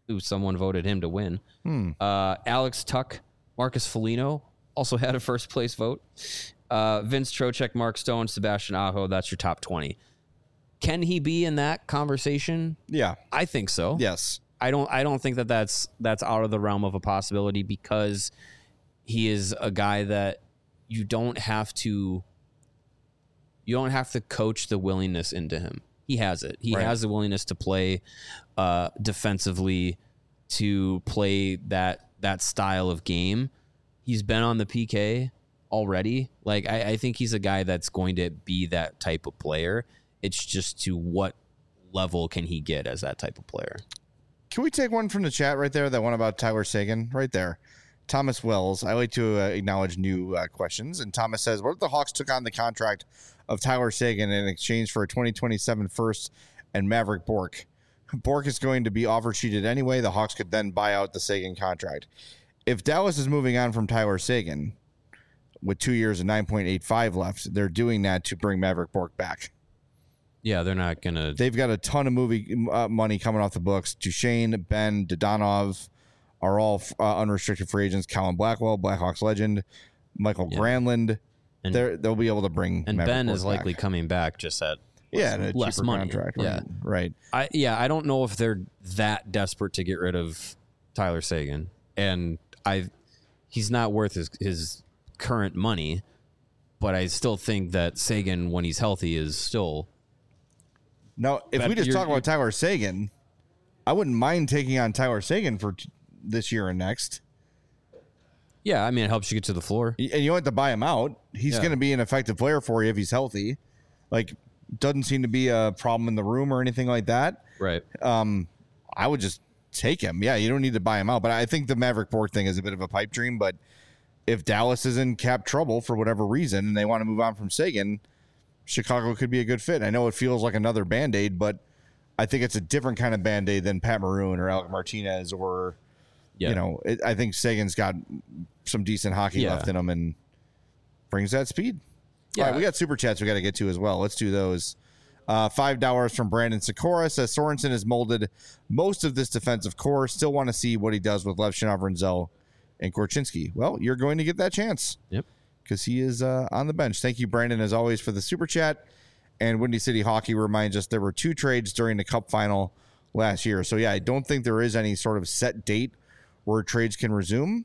who someone voted him to win. Alex Tuck, Marcus Foligno also had a first place vote. Vince Trocheck, Mark Stone, Sebastian Aho. That's your top 20. Can he be in that conversation? Yeah, I think so. Yes. I don't think that's out of the realm of a possibility, because he is a guy that you don't have to coach the willingness into him. He has it. He has the willingness to play defensively, to play that style of game. He's been on the PK already. Like, I think he's a guy that's going to be that type of player. It's just to what level can he get as that type of player. Can we take one from the chat right there, that one about Tyler Seguin right there? Thomas Wells. I like to acknowledge new questions. And Thomas says, what if the Hawks took on the contract of Tyler Seguin in exchange for a 2027 first and Maverick Bourque? Bourque is going to be offer sheeted anyway. The Hawks could then buy out the Seguin contract. If Dallas is moving on from Tyler Seguin with 2 years and 9.85 left, they're doing that to bring Maverick Bourque back. Yeah, they're not going to. They've got a ton of money coming off the books. Duchesne, Ben, Dodonov are all unrestricted free agents. Colin Blackwell, Blackhawks legend, Michael Granlund. And they'll be able to bring. And Maverick Ben Bourque is likely coming back just at less money. Contract. Yeah, right. I don't know if they're that desperate to get rid of Tyler Seguin, and he's not worth his current money, but I still think that Seguin, when he's healthy, is still. Now, if we just talk about Tyler Seguin, I wouldn't mind taking on Tyler Seguin for this year and next. Yeah, I mean, it helps you get to the floor. And you don't have to buy him out. He's going to be an effective player for you if he's healthy. Like, doesn't seem to be a problem in the room or anything like that. Right. I would just take him. Yeah, you don't need to buy him out. But I think the Maverick Bourque thing is a bit of a pipe dream. But if Dallas is in cap trouble for whatever reason and they want to move on from Seguin, Chicago could be a good fit. I know it feels like another Band-Aid, but I think it's a different kind of Band-Aid than Pat Maroon or Alec Martinez or, I think Seguin's got some decent hockey left in him and brings that speed. Yeah. All right, we got super chats we got to get to as well. Let's do those. $5 from Brandon Sikora says Sorensen has molded most of this defensive core. Still want to see what he does with Lev Shinov, Renzel, and Korchinski. Well, you're going to get that chance. Yep. Because he is on the bench. Thank you, Brandon, as always, for the super chat. And Windy City Hockey reminds us there were 2 trades during the Cup final last year. So, yeah, I don't think there is any sort of set date where trades can resume.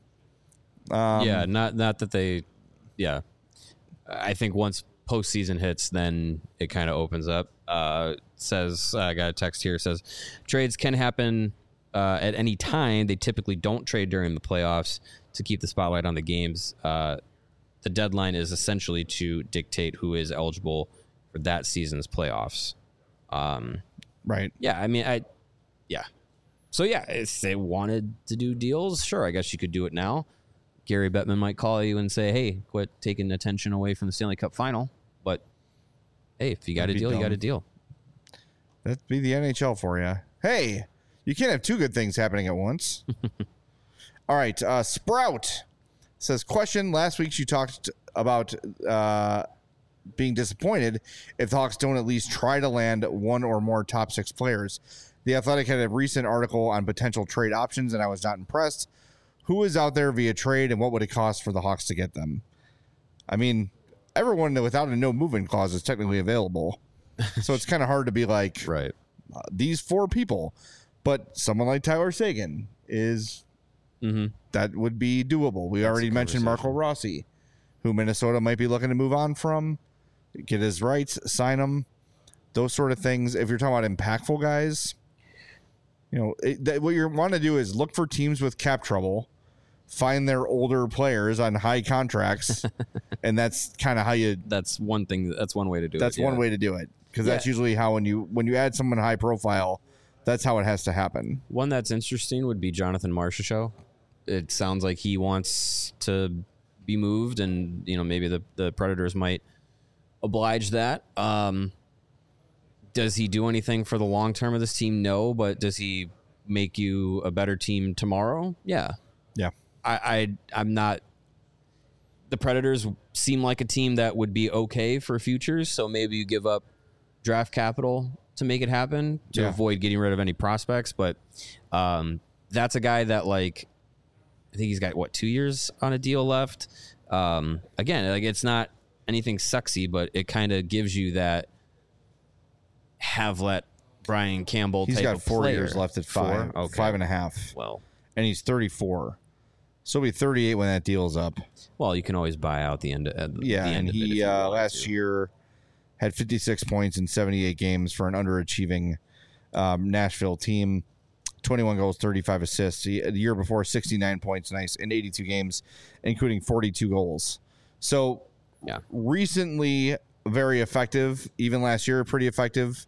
Not that they – yeah. I think once postseason hits, then it kind of opens up. Says I got a text here. Says trades can happen at any time. They typically don't trade during the playoffs to keep the spotlight on the games. The deadline is essentially to dictate who is eligible for that season's playoffs. Right. Yeah. I mean, So, yeah, if they wanted to do deals, sure, I guess you could do it now. Gary Bettman might call you and say, hey, quit taking attention away from the Stanley Cup final. But, hey, if you got a deal, you got a deal. That'd be the NHL for you. Hey, you can't have 2 good things happening at once. All right. Sprout says, question, last week you talked about being disappointed if the Hawks don't at least try to land one or more top 6 players. The Athletic had a recent article on potential trade options, and I was not impressed. Who is out there via trade, and what would it cost for the Hawks to get them? I mean, everyone without a no movement clause is technically available. So it's kind of hard to be like, right, these 4 people. But someone like Tyler Seguin is... that would be doable. We already mentioned Marco Rossi, who Minnesota might be looking to move on from, get his rights, sign him, those sort of things. If you're talking about impactful guys, what you want to do is look for teams with cap trouble, find their older players on high contracts, and that's kind of how you. That's one thing. That's one way to do it. That's one way to do it, because that's usually how when you add someone high profile, that's how it has to happen. One that's interesting would be Jonathan Marchessault. It sounds like he wants to be moved, and maybe the Predators might oblige that. Does he do anything for the long term of this team? No, but does he make you a better team tomorrow? Yeah. I'm not. The Predators seem like a team that would be okay for futures, so maybe you give up draft capital to make it happen to avoid getting rid of any prospects. But that's a guy that, like, I think he's got, 2 years on a deal left. Again, like, it's not anything sexy, but it kind of gives you that have-let Brian Campbell He's type got of 4 player. years left at 5, Okay. 5.5. Well, And he's 34. So he'll be 38 when that deal's up. you can always buy out the end. Yeah, the end and of it if he you want last to. year had 56 points in 78 games for an underachieving Nashville team. 21 goals, 35 assists. The year before, 69 points, nice, in 82 games, including 42 goals. So Yeah. recently very effective. Even last year, pretty effective.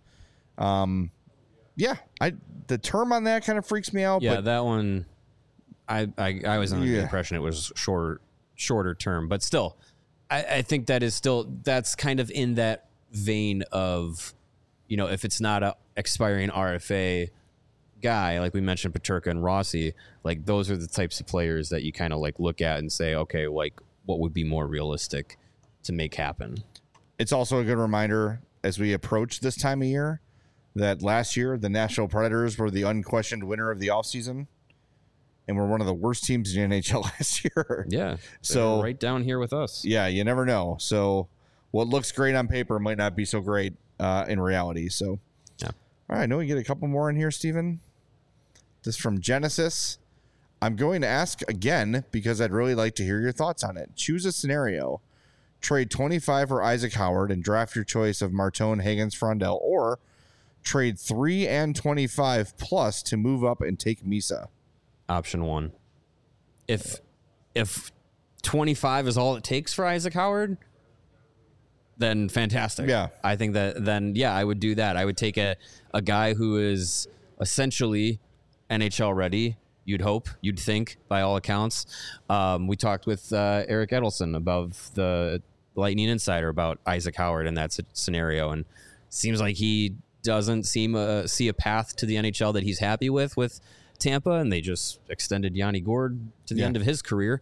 The term on that kind of freaks me out. Yeah, but that one. I was under the Yeah. impression it was shorter term, but still, I think that's kind of in that vein of, if it's not a expiring RFA guy, like we mentioned, Peterka and Rossi, like those are the types of players that you kind of like look at and say, okay, like what would be more realistic to make happen. it's also a good reminder as we approach this time of year that last year the Nashville Predators were the unquestioned winner of the offseason and were one of the worst teams in the NHL last year. Yeah. So right down here with us. yeah, you never know. So what looks great on paper might not be so great in reality. So, Yeah. All right, I know we get a couple more in here, Steven. This is from Genesis. I'm going to ask again because I'd really like to hear your thoughts on it. Choose a scenario. Trade 25 for Isaac Howard and draft your choice of Martone, Higgins, Frondell, or trade 3 and 25 plus to move up and take Misa. Option 1. If 25 is all it takes for Isaac Howard, then fantastic. Yeah. I think that then, I would do that. I would take a guy who is essentially NHL ready, you'd hope, you'd think, by all accounts. We talked with Eric Edelson above the Lightning Insider about Isaac Howard in that scenario, and seems like he doesn't see a path to the NHL that he's happy with Tampa, and they just extended Yanni Gourde to the end of his career.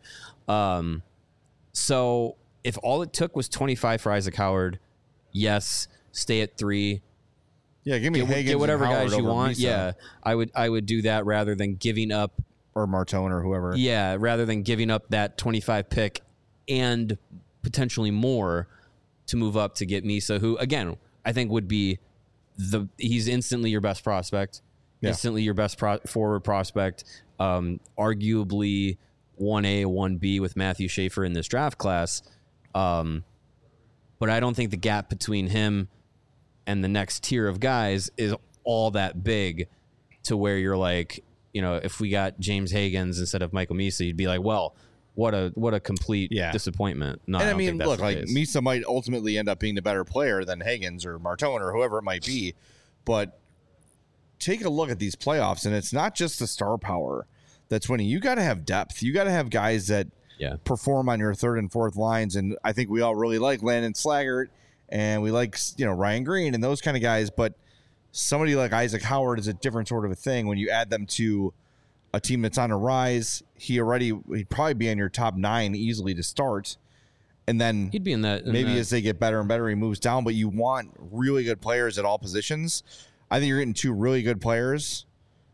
So if all it took was 25 for Isaac Howard, yes, stay at 3. Yeah, give me Higgins Get whatever and Howard guys you over want. Misa. Yeah, I would do that rather than giving up. Or Martone or whoever. Yeah, rather than giving up that 25 pick and potentially more to move up to get Misa, who again I think would be he's instantly your best prospect, instantly your best forward prospect, arguably 1A, 1B with Matthew Schaefer in this draft class. But I don't think the gap between him and the next tier of guys is all that big to where you're like, if we got James Higgins instead of Michael Misa, you'd be like, well, what a complete disappointment. No, And I I don't mean, think that's look, the like case. Misa might ultimately end up being the better player than Higgins or Martone or whoever it might be. But take a look at these playoffs, and it's not just the star power that's winning. You got to have depth. You got to have guys that perform on your third and fourth lines. And I think we all really like Landon Slaggert, and we like Ryan Green and those kind of guys. But somebody like Isaac Howard is a different sort of a thing when you add them to a team that's on a rise. He'd probably be in your top 9 easily to start. And then he'd be in that. As they get better and better, he moves down. But you want really good players at all positions. I think you're getting 2 really good players.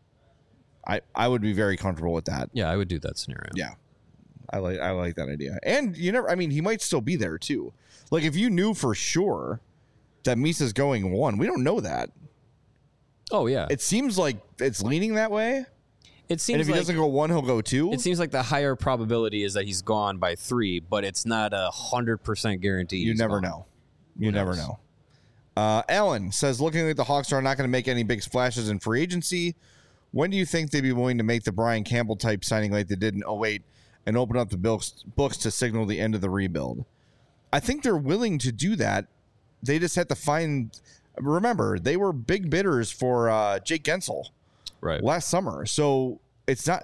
I would be very comfortable with that. Yeah, I would do that scenario. Yeah, I like that idea. And he might still be there too. Like if you knew for sure that Misa's going 1, we don't know that. Oh yeah, It seems like it's leaning that way. it seems And if he doesn't go 1, he'll go 2. It seems like the higher probability is that he's gone by 3, but it's not 100% guarantee. You never know. You never know. Alan says, looking like the Hawks are not going to make any big splashes in free agency, when do you think they'd be willing to make the Brian Campbell type signing like they did in 08 and open up the books to signal the end of the rebuild? I think they're willing to do that. They just have to find. Remember, they were big bidders for Jake Gensel last summer. So it's not.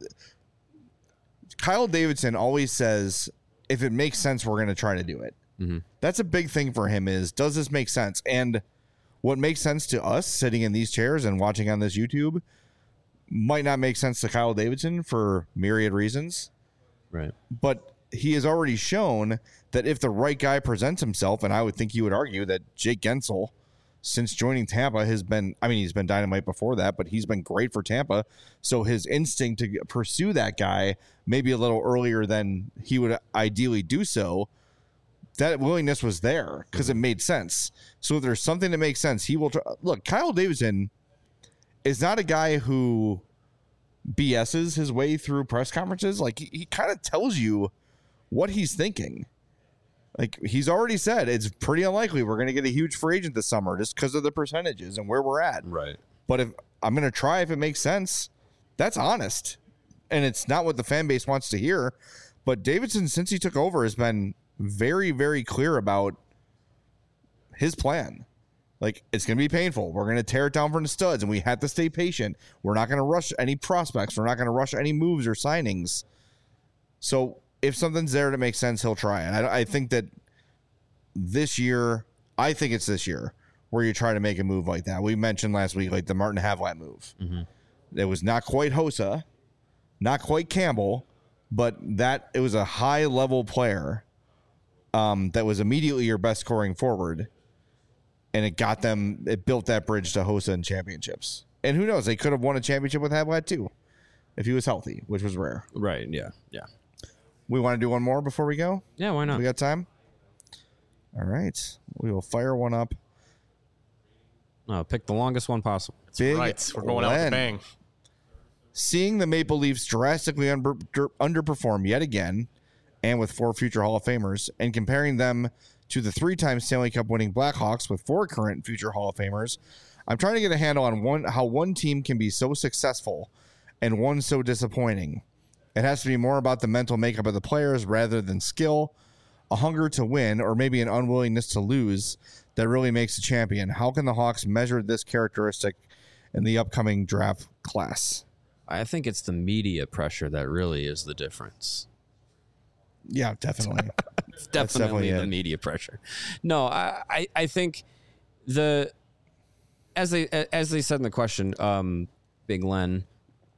Kyle Davidson always says, if it makes sense, we're going to try to do it. Mm-hmm. That's a big thing for him is, does this make sense? And what makes sense to us sitting in these chairs and watching on this YouTube might not make sense to Kyle Davidson for myriad reasons. Right. But he has already shown that if the right guy presents himself, and I would think you would argue that Jake Gensel since joining Tampa has been, I mean, he's been dynamite before that, but he's been great for Tampa. So his instinct to pursue that guy maybe a little earlier than he would ideally do so, that willingness was there because it made sense. So if there's something that makes sense, he will look. Kyle Davidson is not a guy who BS's his way through press conferences. Like he kind of tells you what he's thinking. Like he's already said, it's pretty unlikely we're going to get a huge free agent this summer just because of the percentages and where we're at. Right. But if I'm going to try, if it makes sense, that's honest. And it's not what the fan base wants to hear. But Davidson, since he took over, has been very, very clear about his plan. Like, it's going to be painful. We're going to tear it down from the studs, and we have to stay patient. We're not going to rush any prospects. We're not going to rush any moves or signings. So if something's there that makes sense, he'll try it. I think that this year, I think it's this year where you try to make a move like that. We mentioned last week, like the Martin Havlat move. Mm-hmm. It was not quite Hossa, not quite Campbell, but that it was a high-level player that was immediately your best scoring forward. And it built that bridge to Hossa and championships. And who knows, they could have won a championship with Havlat too, if he was healthy, which was rare. Right, yeah, yeah. We want to do one more before we go? Yeah, why not? We got time? All right. We will fire one up. Pick the longest one possible. Big right. We're going out with a bang. Seeing the Maple Leafs drastically underperform yet again, and with 4 future Hall of Famers, and comparing them to the 3-time Stanley Cup winning Blackhawks with 4 current future Hall of Famers, I'm trying to get a handle on how one team can be so successful and one so disappointing. It has to be more about the mental makeup of the players rather than skill, a hunger to win, or maybe an unwillingness to lose that really makes a champion. How can the Hawks measure this characteristic in the upcoming draft class? I think it's the media pressure that really is the difference. Yeah, definitely. It's definitely the media pressure. No, I think as they said in the question, Big Len,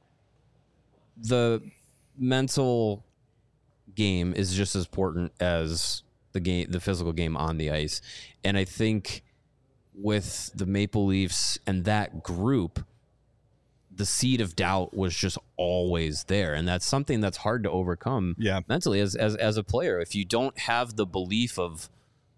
the mental game is just as important as the physical game on the ice. And I think with the Maple Leafs and that group, the seed of doubt was just always there. And that's something that's hard to overcome mentally as a player. If you don't have the belief of,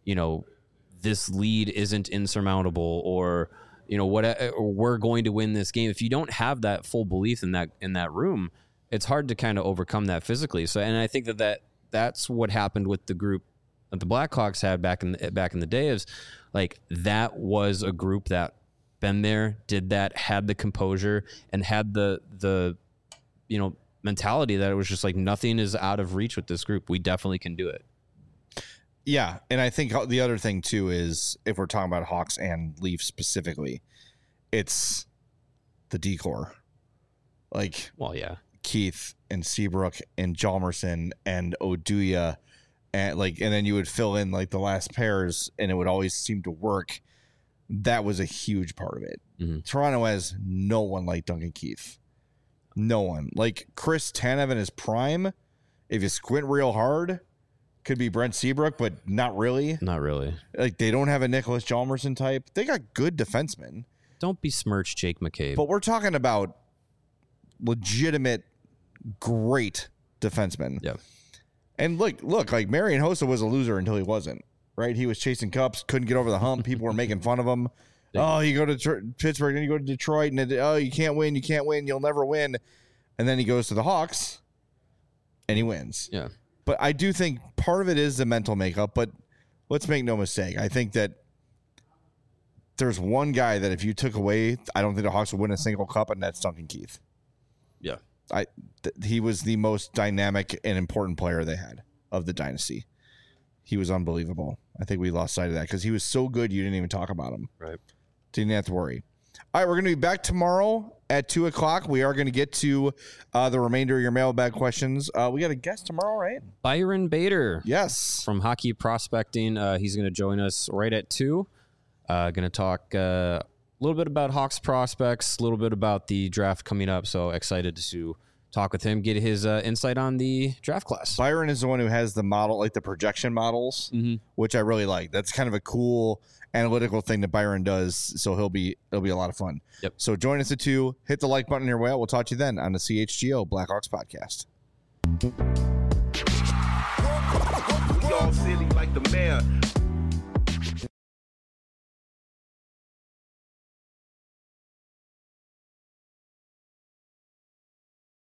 this lead isn't insurmountable or, or we're going to win this game. If you don't have that full belief in that room, it's hard to kind of overcome that physically. So, and I think that's what happened with the group that the Blackhawks had back in the day. Is like that was a group that been there, did that, had the composure, and had the mentality that it was just like nothing is out of reach with this group. We definitely can do it. Yeah, and I think the other thing too is if we're talking about Hawks and Leafs specifically, it's the decor. Like, well, yeah. Keith and Seabrook and Hjalmarsson and Oduya and then you would fill in like the last pairs and it would always seem to work. That was a huge part of it. Mm-hmm. Toronto has no one like Duncan Keith. No one. Like Chris Tanev in his prime, if you squint real hard, could be Brent Seabrook, but not really. Not really. Like they don't have a Nicholas Hjalmarsson type. They got good defensemen. Don't besmirch Jake McCabe. But we're talking about legitimate great defensemen. Yeah. And look, like Marian Hossa was a loser until he wasn't, right? He was chasing cups, couldn't get over the hump. People were making fun of him. Oh, you go to Pittsburgh, then you go to Detroit, and you can't win, you'll never win. And then he goes to the Hawks, and he wins. Yeah. But I do think part of it is the mental makeup, but let's make no mistake. I think that there's one guy that if you took away, I don't think the Hawks would win a single cup, and that's Duncan Keith. Yeah. He was the most dynamic and important player they had of the dynasty. He was unbelievable. I think we lost sight of that because he was so good you didn't even talk about him. Right. Didn't have to worry. All right, we're going to be back tomorrow at 2 o'clock. We are going to get to the remainder of your mailbag questions. We got a guest tomorrow, right? Byron Bader. Yes. From Hockey Prospecting. He's going to join us right at 2. Going to talk a little bit about Hawks prospects, a little bit about the draft coming up. So excited to talk with him, get his insight on the draft class. Byron is the one who has the model, like the projection models, which I really like. That's kind of a cool analytical thing that Byron does. So it'll be a lot of fun. Yep. So join us at 2. Hit the like button on your way out. We'll talk to you then on the CHGO Blackhawks podcast.